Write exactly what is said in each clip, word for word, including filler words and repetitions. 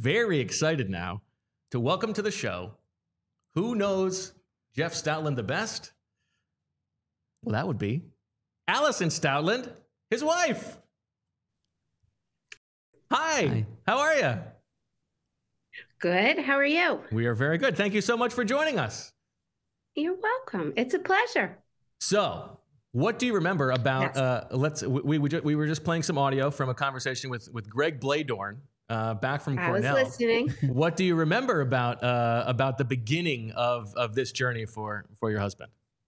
very excited now to welcome to the show, who knows Jeff Stoutland the best? Well, that would be Allison Stoutland, his wife. Hi, Hi. How are you? Good. How are you? We are very good. Thank you so much for joining us. You're welcome. It's a pleasure. So, what do you remember about? Yes. Uh, let's. We we, we were just playing some audio from a conversation with with Greg Bladorn uh, back from Cornell. I was listening. What do you remember about uh, about the beginning of of this journey for for your husband?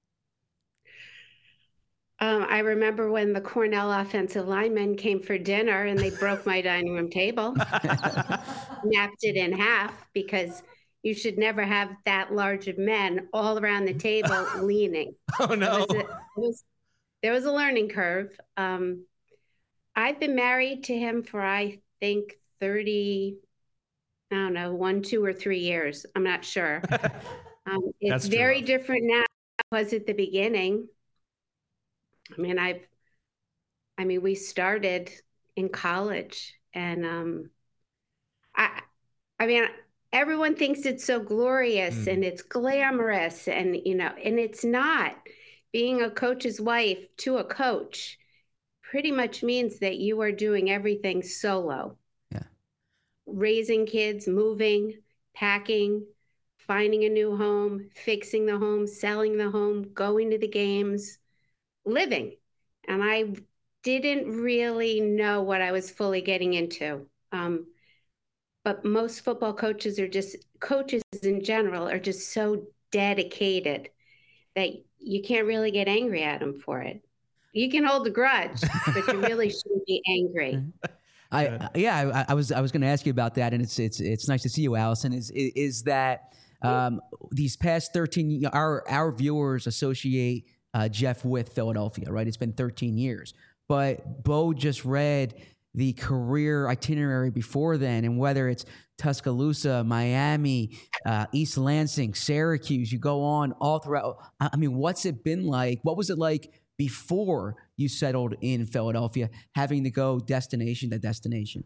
Um, I remember when the Cornell offensive linemen came for dinner and they broke my dining room table, napped it in half because you should never have that large of men all around the table leaning. Oh, no. It was a, it was, there was a learning curve. Um, I've been married to him for, I think, thirty, I don't know, one, two, or three years. I'm not sure. Um, it's very rough. different now than it was at the beginning. I mean, I've, I mean, we started in college and, um, I, I mean, everyone thinks it's so glorious mm. and it's glamorous and, you know, and it's not. Being a coach's wife to a coach pretty much means that you are doing everything solo. Yeah. Raising kids, moving, packing, finding a new home, fixing the home, selling the home, going to the games, living. And I didn't really know what I was fully getting into. Um, but most football coaches are just, coaches in general are just so dedicated that you can't really get angry at them for it. You can hold a grudge, but you really shouldn't be angry. I, yeah, I, I was I was going to ask you about that, and it's it's it's nice to see you, Allison. Is is that um, these past thirteen, our our viewers associate Uh, Jeff with Philadelphia, right? It's been thirteen years. But Bo just read the career itinerary before then, and whether it's Tuscaloosa, Miami, uh, East Lansing, Syracuse, you go on all throughout. I mean, what's it been like? What was it like before you settled in Philadelphia, having to go destination to destination?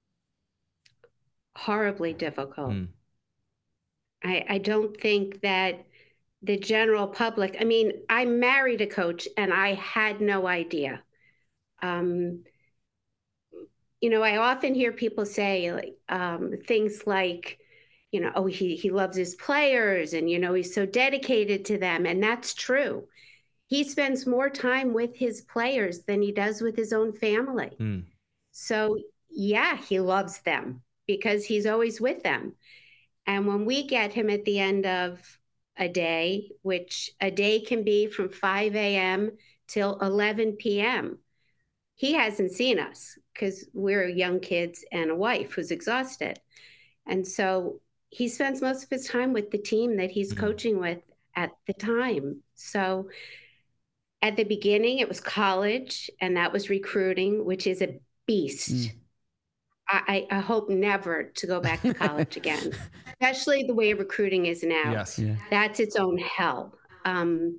Horribly difficult. Mm. I, I don't think that the general public, I mean, I married a coach and I had no idea. Um, you know, I often hear people say like, um, things like, you know, oh, he, he loves his players and, you know, he's so dedicated to them. And that's true. He spends more time with his players than he does with his own family. Mm. So yeah, he loves them because he's always with them. And when we get him at the end of a day, which a day can be from five a.m. till eleven p.m. He hasn't seen us because we're young kids and a wife who's exhausted. And so he spends most of his time with the team that he's mm-hmm. coaching with at the time. So at the beginning, it was college, and that was recruiting, which is a beast. Mm. I, I hope never to go back to college again, especially the way recruiting is now. Yes. Yeah. That's its own hell. Um,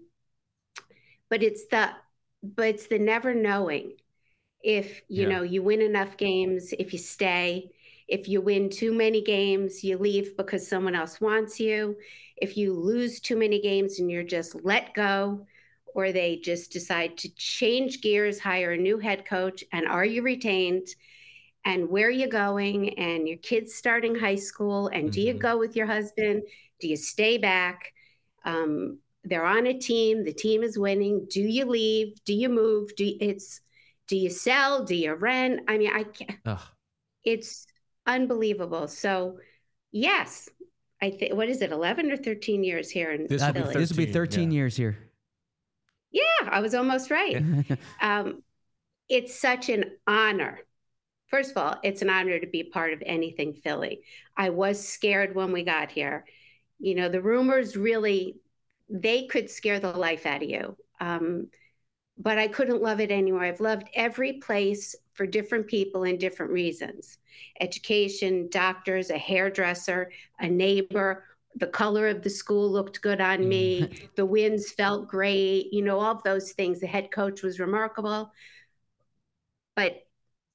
but it's the, but it's the never knowing if, you yeah. know, you win enough games, if you stay, if you win too many games, you leave because someone else wants you. If you lose too many games and you're just let go, or they just decide to change gears, hire a new head coach, and are you retained? And where are you going? And your kid's starting high school. And mm-hmm. do you go with your husband? Do you stay back? Um, they're on a team. The team is winning. Do you leave? Do you move? Do you, it's do you sell? Do you rent? I mean, I can't. Ugh. It's unbelievable. So, yes, I think. What is it? Eleven or thirteen years here in this Philly? Will be this will be thirteen yeah. years here. Yeah, I was almost right. um, it's such an honor. First of all, it's an honor to be part of anything Philly. I was scared when we got here. You know, the rumors really, they could scare the life out of you. Um, but I couldn't love it anymore. I've loved every place for different people and different reasons. Education, doctors, a hairdresser, a neighbor. The color of the school looked good on me. The winds felt great. You know, all of those things. The head coach was remarkable. But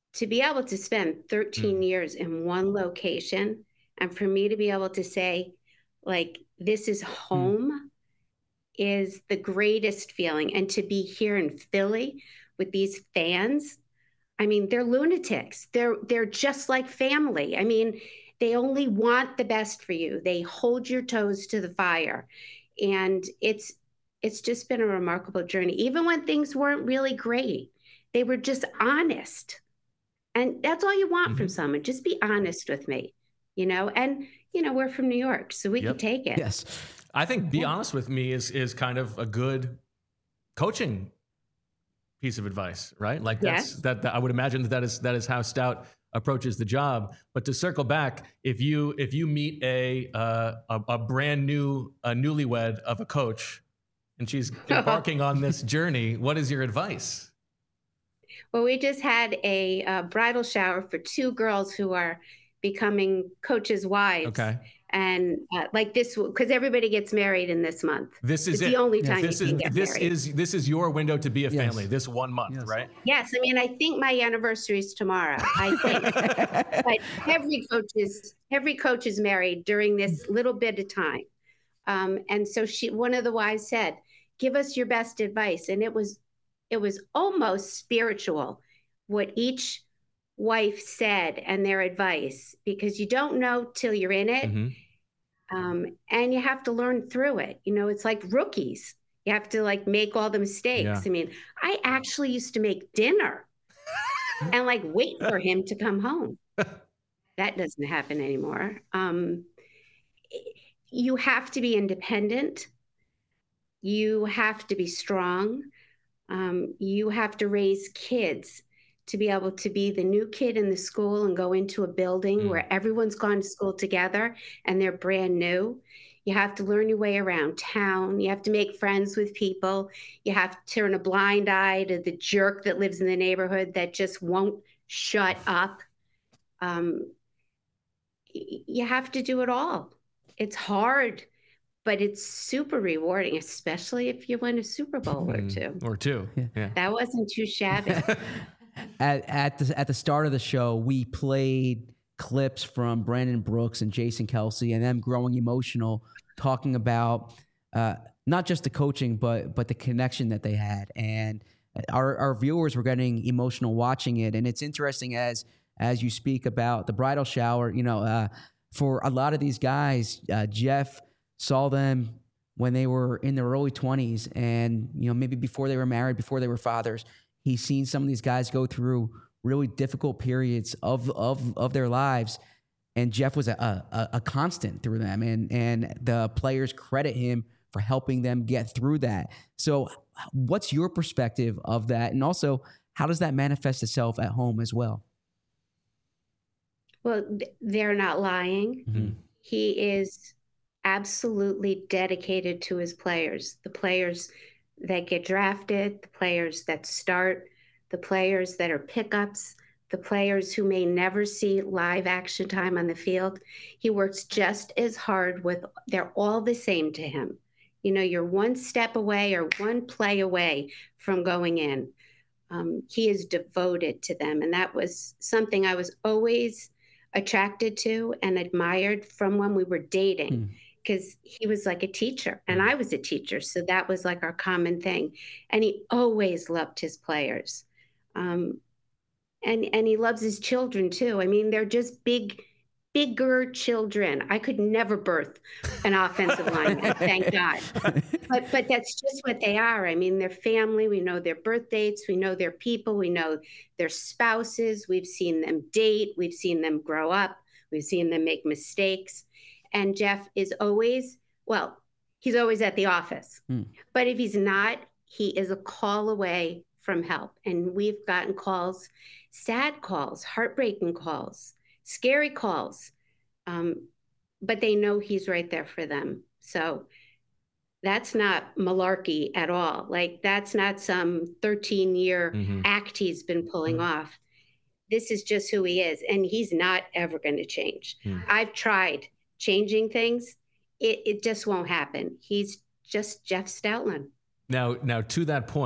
to be able to spend thirteen Mm. years in one location, and for me to be able to say, like, this is home, is the greatest feeling. And to be here in Philly with these fans, I mean, they're lunatics. They're they're just like family. I mean, they only want the best for you. They hold your toes to the fire. And it's it's just been a remarkable journey. Even when things weren't really great, they were just honest. And that's all you want Mhm. from someone. Just be honest with me, you know? And, you know, we're from New York, so we Yep. can take it. Yes. I think be honest with me is is kind of a good coaching piece of advice, right? Like that's Yes. that, that I would imagine that that is that is how Stout approaches the job. But to circle back, if you if you meet a uh, a, a brand new a newlywed of a coach, and she's embarking on this journey, what is your advice? Well, we just had a uh, bridal shower for two girls who are becoming coaches' wives. Okay. And uh, like this, because everybody gets married in this month. This is it's it. the only Yes. time This you is can get this married. is this is your window to be a Yes. family. This one month, Yes. right? Yes, I mean, I think my anniversary is tomorrow. I think, but every coach is every coach is married during this little bit of time. Um, and so she, one of the wives said, "Give us your best advice," and it was, it was almost spiritual, what each wife said and their advice, because you don't know till you're in it. Mhm. Um, and you have to learn through it. You know, it's like rookies. You have to like make all the mistakes. Yeah. I mean, I actually used to make dinner and like wait for him to come home. That doesn't happen anymore. Um, you have to be independent. You have to be strong. Um, you have to raise kids to be able to be the new kid in the school and go into a building Mm. where everyone's gone to school together and they're brand new. You have to learn your way around town. You have to make friends with people. You have to turn a blind eye to the jerk that lives in the neighborhood that just won't shut up. Um, y- you have to do it all. It's hard, but it's super rewarding, especially if you win a Super Bowl or Mm. two. Or two. Yeah. Yeah. That wasn't too shabby. At at the at the start of the show, we played clips from Brandon Brooks and Jason Kelsey, and them growing emotional, talking about uh, not just the coaching, but but the connection that they had. And our our viewers were getting emotional watching it. And it's interesting as as you speak about the bridal shower. You know, uh, for a lot of these guys, uh, Jeff saw them when they were in their early twenties, and you know maybe before they were married, before they were fathers. He's seen some of these guys go through really difficult periods of of of their lives, and Jeff was a a, a constant through them, and and the players credit him for helping them get through that. So, what's your perspective of that, and also how does that manifest itself at home as well? Well, th- they're not lying. Mm-hmm. He is absolutely dedicated to his players, the players that get drafted, the players that start, the players that are pickups, the players who may never see live action time on the field. He works just as hard with, they're all the same to him. You know, you're one step away or one play away from going in. Um, he is devoted to them. And that was something I was always attracted to and admired from when we were dating. Hmm. Because he was like a teacher and I was a teacher. So that was like our common thing. And he always loved his players. Um, and, and he loves his children too. I mean, they're just big, bigger children. I could never birth an offensive lineman, thank God. But, but that's just what they are. I mean, they're family. We know their birth dates. We know their people. We know their spouses. We've seen them date. We've seen them grow up. We've seen them make mistakes. And Jeff is always, well, he's always at the office. Mm. But if he's not, he is a call away from help. And we've gotten calls, sad calls, heartbreaking calls, scary calls. Um, but they know he's right there for them. So that's not malarkey at all. Like, that's not some thirteen-year Mm-hmm. act he's been pulling Mm. off. This is just who he is. And he's not ever going to change. Mm. I've tried changing things. It, it just won't happen. He's just Jeff Stoutland. Now, now to that point,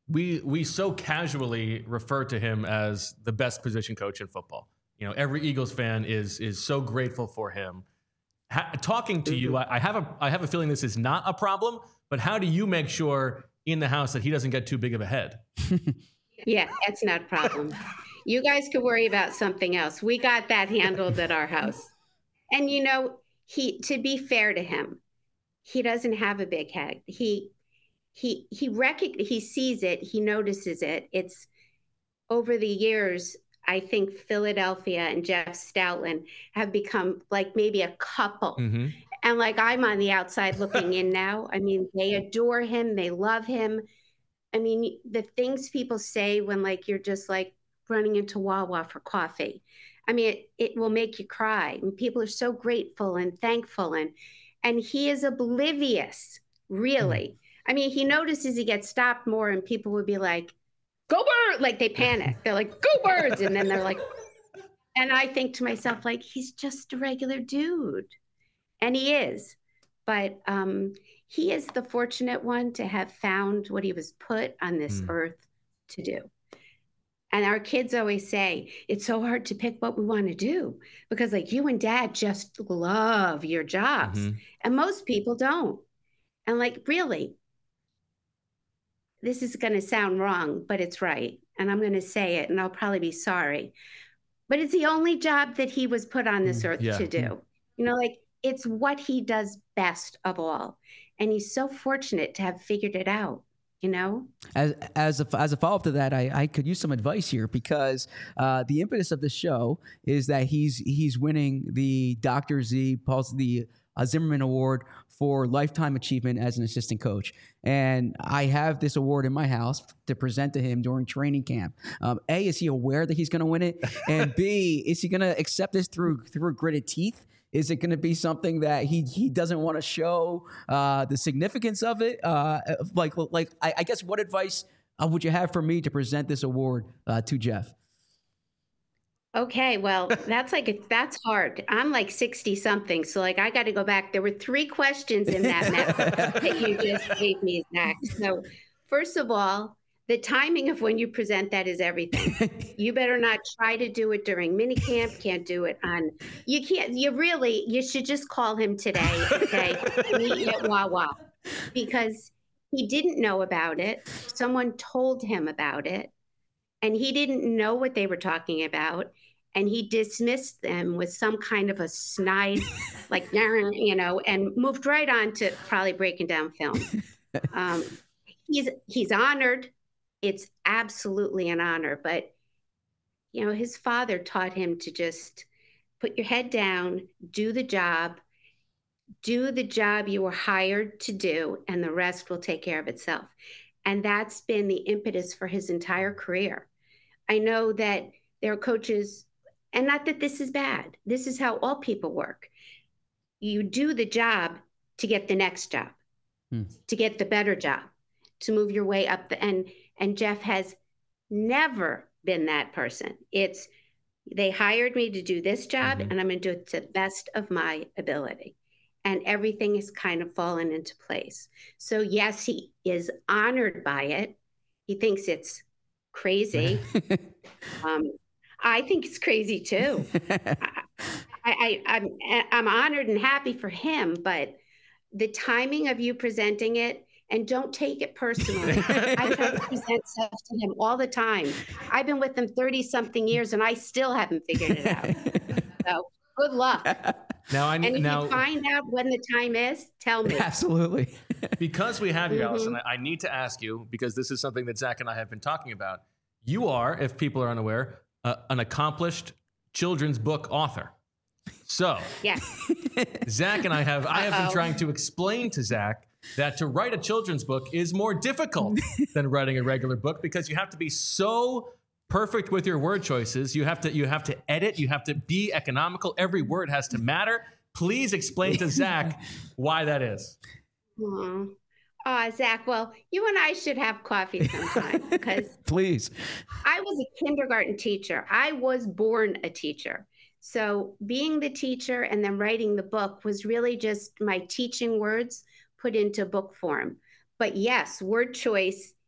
we we so casually refer to him as the best position coach in football. You know, every Eagles fan is is so grateful for him. Ha- talking to you, I, I have a I have a feeling this is not a problem. But how do you make sure in the house that he doesn't get too big of a head? Yeah, that's not a problem. You guys could worry about something else. We got that handled at our house. And you know, he to be fair to him, he doesn't have a big head. He he he rec- he sees it, he notices it. It's over the years, I think Philadelphia and Jeff Stoutland have become like maybe a couple. Mm-hmm. And like I'm on the outside looking in now. I mean, they adore him, they love him. I mean, the things people say when like you're just like running into Wawa for coffee. I mean, it, it will make you cry. And people are so grateful and thankful. And and he is oblivious, really. Mm. I mean, he notices he gets stopped more and people would be like, go bird, like they panic. They're like, go birds. And then they're like, and I think to myself, like, he's just a regular dude. And he is. But um, he is the fortunate one to have found what he was put on this mm. earth to do. And our kids always say, it's so hard to pick what we want to do because like you and dad just love your jobs. Mm-hmm. And most people don't. And like, really, this is going to sound wrong, but it's right. And I'm going to say it and I'll probably be sorry. But it's the only job that he was put on this earth yeah. to do. You know, like it's what he does best of all. And he's so fortunate to have figured it out. You know, as as a as a follow up to that, I, I could use some advice here because uh, the impetus of the show is that he's he's winning the Doctor Z Paul the uh, Zimmerman Award for lifetime achievement as an assistant coach, and I have this award in my house to present to him during training camp. Um, A, is he aware that he's going to win it, and B, is he going to accept this through through gritted teeth? Is it going to be something that he he doesn't want to show uh, the significance of it? Uh, like, like I, I guess what advice uh, would you have for me to present this award uh, to Jeff? Okay, well, that's like, a, that's hard. I'm like sixty something. So like, I got to go back. There were three questions in that mess that you just gave me, Zach. So first of all, the timing of when you present that is everything. You better not try to do it during minicamp. Can't do it on, you can't, you really, you should just call him today and say, meet me at Wawa. Because he didn't know about it. Someone told him about it. And he didn't know what they were talking about. And he dismissed them with some kind of a snide, like, you know, and moved right on to probably breaking down film. Um, he's he's honored. It's absolutely an honor. But, you know, his father taught him to just put your head down, do the job, do the job you were hired to do, and the rest will take care of itself. And that's been the impetus for his entire career. I know that there are coaches, and not that this is bad. This is how all people work. You do the job to get the next job, hmm. to get the better job, to move your way up the and and Jeff has never been that person. It's they hired me to do this job, mm-hmm. and I'm going to do it to the best of my ability. And everything is kind of fallen into place. So yes, he is honored by it. He thinks it's crazy. um, I think it's crazy too. I, I, I'm I'm honored and happy for him, but the timing of you presenting it, and don't take it personally. I try to present stuff to him all the time. I've been with him thirty something years, and I still haven't figured it out. So good luck. Now I need, and if now, you find out when the time is, tell me. Absolutely. Because we have you, mm-hmm. Allison, I need to ask you, because this is something that Zach and I have been talking about. You are, if people are unaware, uh, an accomplished children's book author. So, yes. Zach and I have I have Uh-oh. been trying to explain to Zach that to write a children's book is more difficult than writing a regular book because you have to be so perfect with your word choices. You have to you have to edit. You have to be economical. Every word has to matter. Please explain to Zach why that is. Aww. Oh, Zach, well, you and I should have coffee sometime because please. I was a kindergarten teacher. I was born a teacher. So being the teacher and then writing the book was really just my teaching words put into book form. But yes, word choice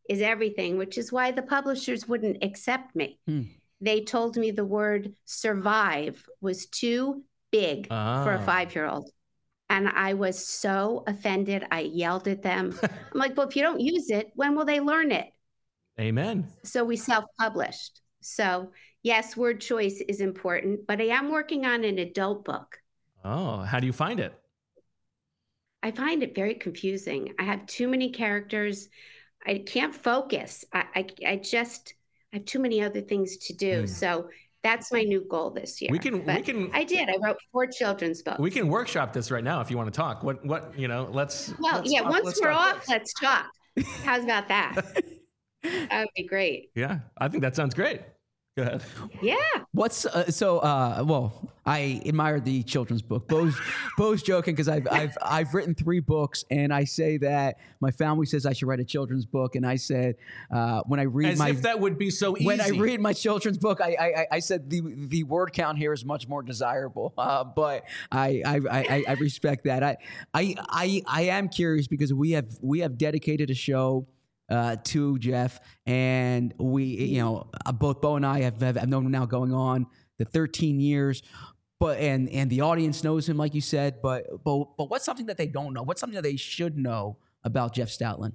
is everything, which is why the publishers wouldn't accept me. Hmm. They told me the word survive was too big Ah. for a five-year-old. And I was so offended. I yelled at them. I'm like, well, if you don't use it, when will they learn it? Amen. So we self-published. So yes, word choice is important, but I am working on an adult book. Oh, how do you find it? I find it very confusing. I have too many characters. I can't focus. I, I, I just I have too many other things to do. Mm. So that's my new goal this year. We can But we can I did. I wrote four children's books. we can workshop this right now if you want to talk. What what you know? Let's Well, let's yeah. talk- Once let's we're talk off, books. let's talk. How's about that? That would be great. Yeah, I think that sounds great. Go ahead. Yeah. What's uh, so? Uh, well, I admire the children's book. Bo's Bo's joking because I've I've I've written three books, and I say that my family says I should write a children's book, and I said uh, when I read As my if that would be so easy. when I read my children's book, I, I I said the the word count here is much more desirable. Uh, but I I, I I respect that. I I I I am curious because we have we have dedicated a show uh, to Jeff, and we you know uh, both Bo and I have, have have known him now going on the thirteen years. But and and the audience knows him, like you said. But but but what's something that they don't know? What's something that they should know about Jeff Stoutland?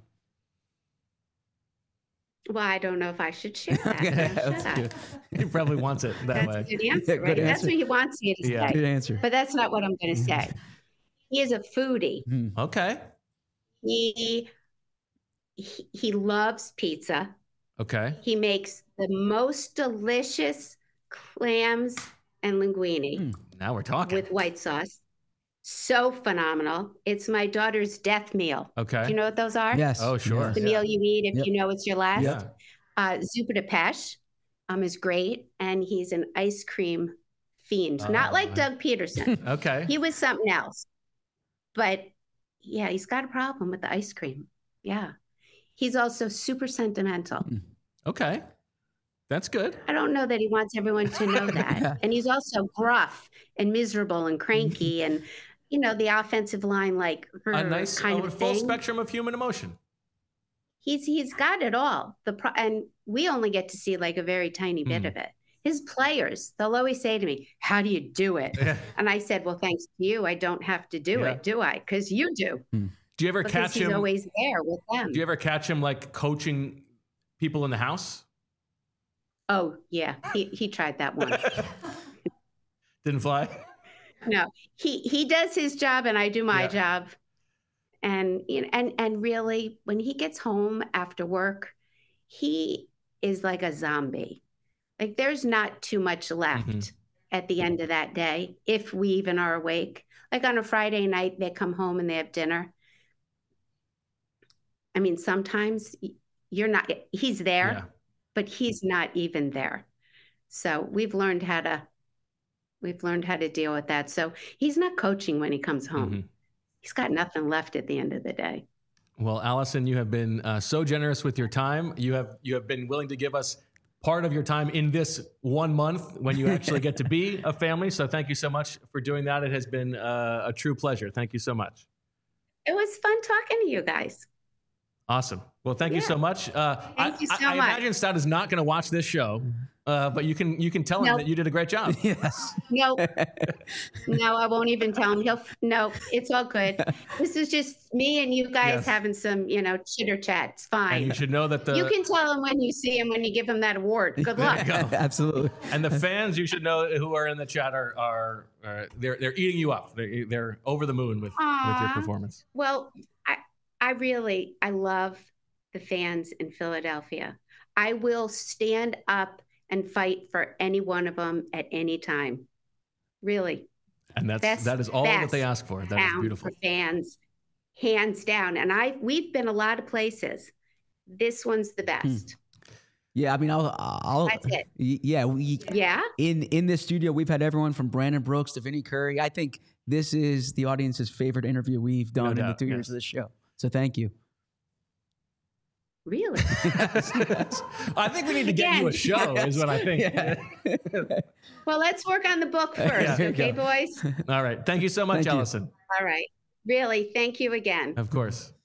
Well, I don't know if I should share that. now, should I? He probably wants it that That's way. a good answer, Yeah, good right? That's answer. what he wants you to Yeah. say. Good answer. But that's not what I'm going to say. He is a foodie. Okay. He, he he loves pizza. Okay. He makes the most delicious clams and linguine Now we're talking. with white sauce. So phenomenal. It's my daughter's death meal. Okay. Do you know what those are? Yes. Oh, sure. Yes. The Yeah. meal you eat if Yep. you know it's your last. Yeah. Uh, Zupa de Pesh um, is great, and he's an ice cream fiend. Not Oh, like my- Doug Peterson. Okay. He was something else. But yeah, he's got a problem with the ice cream. Yeah. He's also super sentimental. Okay. That's good. I don't know that he wants everyone to know that. And he's also gruff and miserable and cranky and, you know, the offensive line, like A nice kind a of full thing. spectrum of human emotion. He's he's got it all. The pro- and we only get to see like a very tiny bit Mm. of it. His players, they'll always say to me, "How do you do it?" Yeah. And I said, "Well, thanks to you, I don't have to do Yeah. it, do I? Because you do. Do you ever Because catch he's him? always there with them." Do you ever catch him like coaching people in the house? Oh yeah, he he tried that once. Didn't fly. No, he he does his job and I do my Yeah. job. And you know, and and really, when he gets home after work, he is like a zombie. Like there's not too much left Mhm. at the end of that day, if we even are awake. Like on a Friday night, they come home and they have dinner. I mean, sometimes y- you're not. He's there, Yeah. but he's not even there. So we've learned how to. We've learned how to deal with that. So he's not coaching when he comes home. Mhm. He's got nothing left at the end of the day. Well, Allison, you have been uh, so generous with your time. You have you have been willing to give us part of your time in this one month when you actually get to be a family. So thank you so much for doing that. It has been uh, a true pleasure. Thank you so much. It was fun talking to you guys. Awesome. Well, thank you Yeah. so much. Uh, Thank I, you so I, I much. imagine Stout is not going to watch this show, uh, but you can you can tell him Nope. that you did a great job. Yes. No, no, I won't even tell him. He'll no, it's all good. This is just me and you guys Yes. having some, you know, chitter chat. It's And fine. you should know that the You can tell him when you see him when you give him that award. Good luck. There you go. Absolutely. And the fans, you should know, who are in the chat are are, are they're they're eating you up. They're, they're over the moon with with your Aw. performance. Well, I I really I love the fans in Philadelphia. I will stand up and fight for any one of them at any time. Really. And that's Best- that is all that best they ask for. That is town beautiful. for fans, hands down. And I we've been a lot of places. This one's the best. Yeah, I mean, I'll, I'll. That's it. y- Yeah, we Yeah. in in this studio we've had everyone from Brandon Brooks to Vinnie Curry. I think this is the audience's favorite interview we've done in the doubt, two yes. years of this show. So thank you. Really? I think we need to get you a Again. show, is what I think. Well, let's work on the book first, There you okay, go. boys? All right. Thank you so much, Thank you. Allison. All right. Really, thank you again. Of course.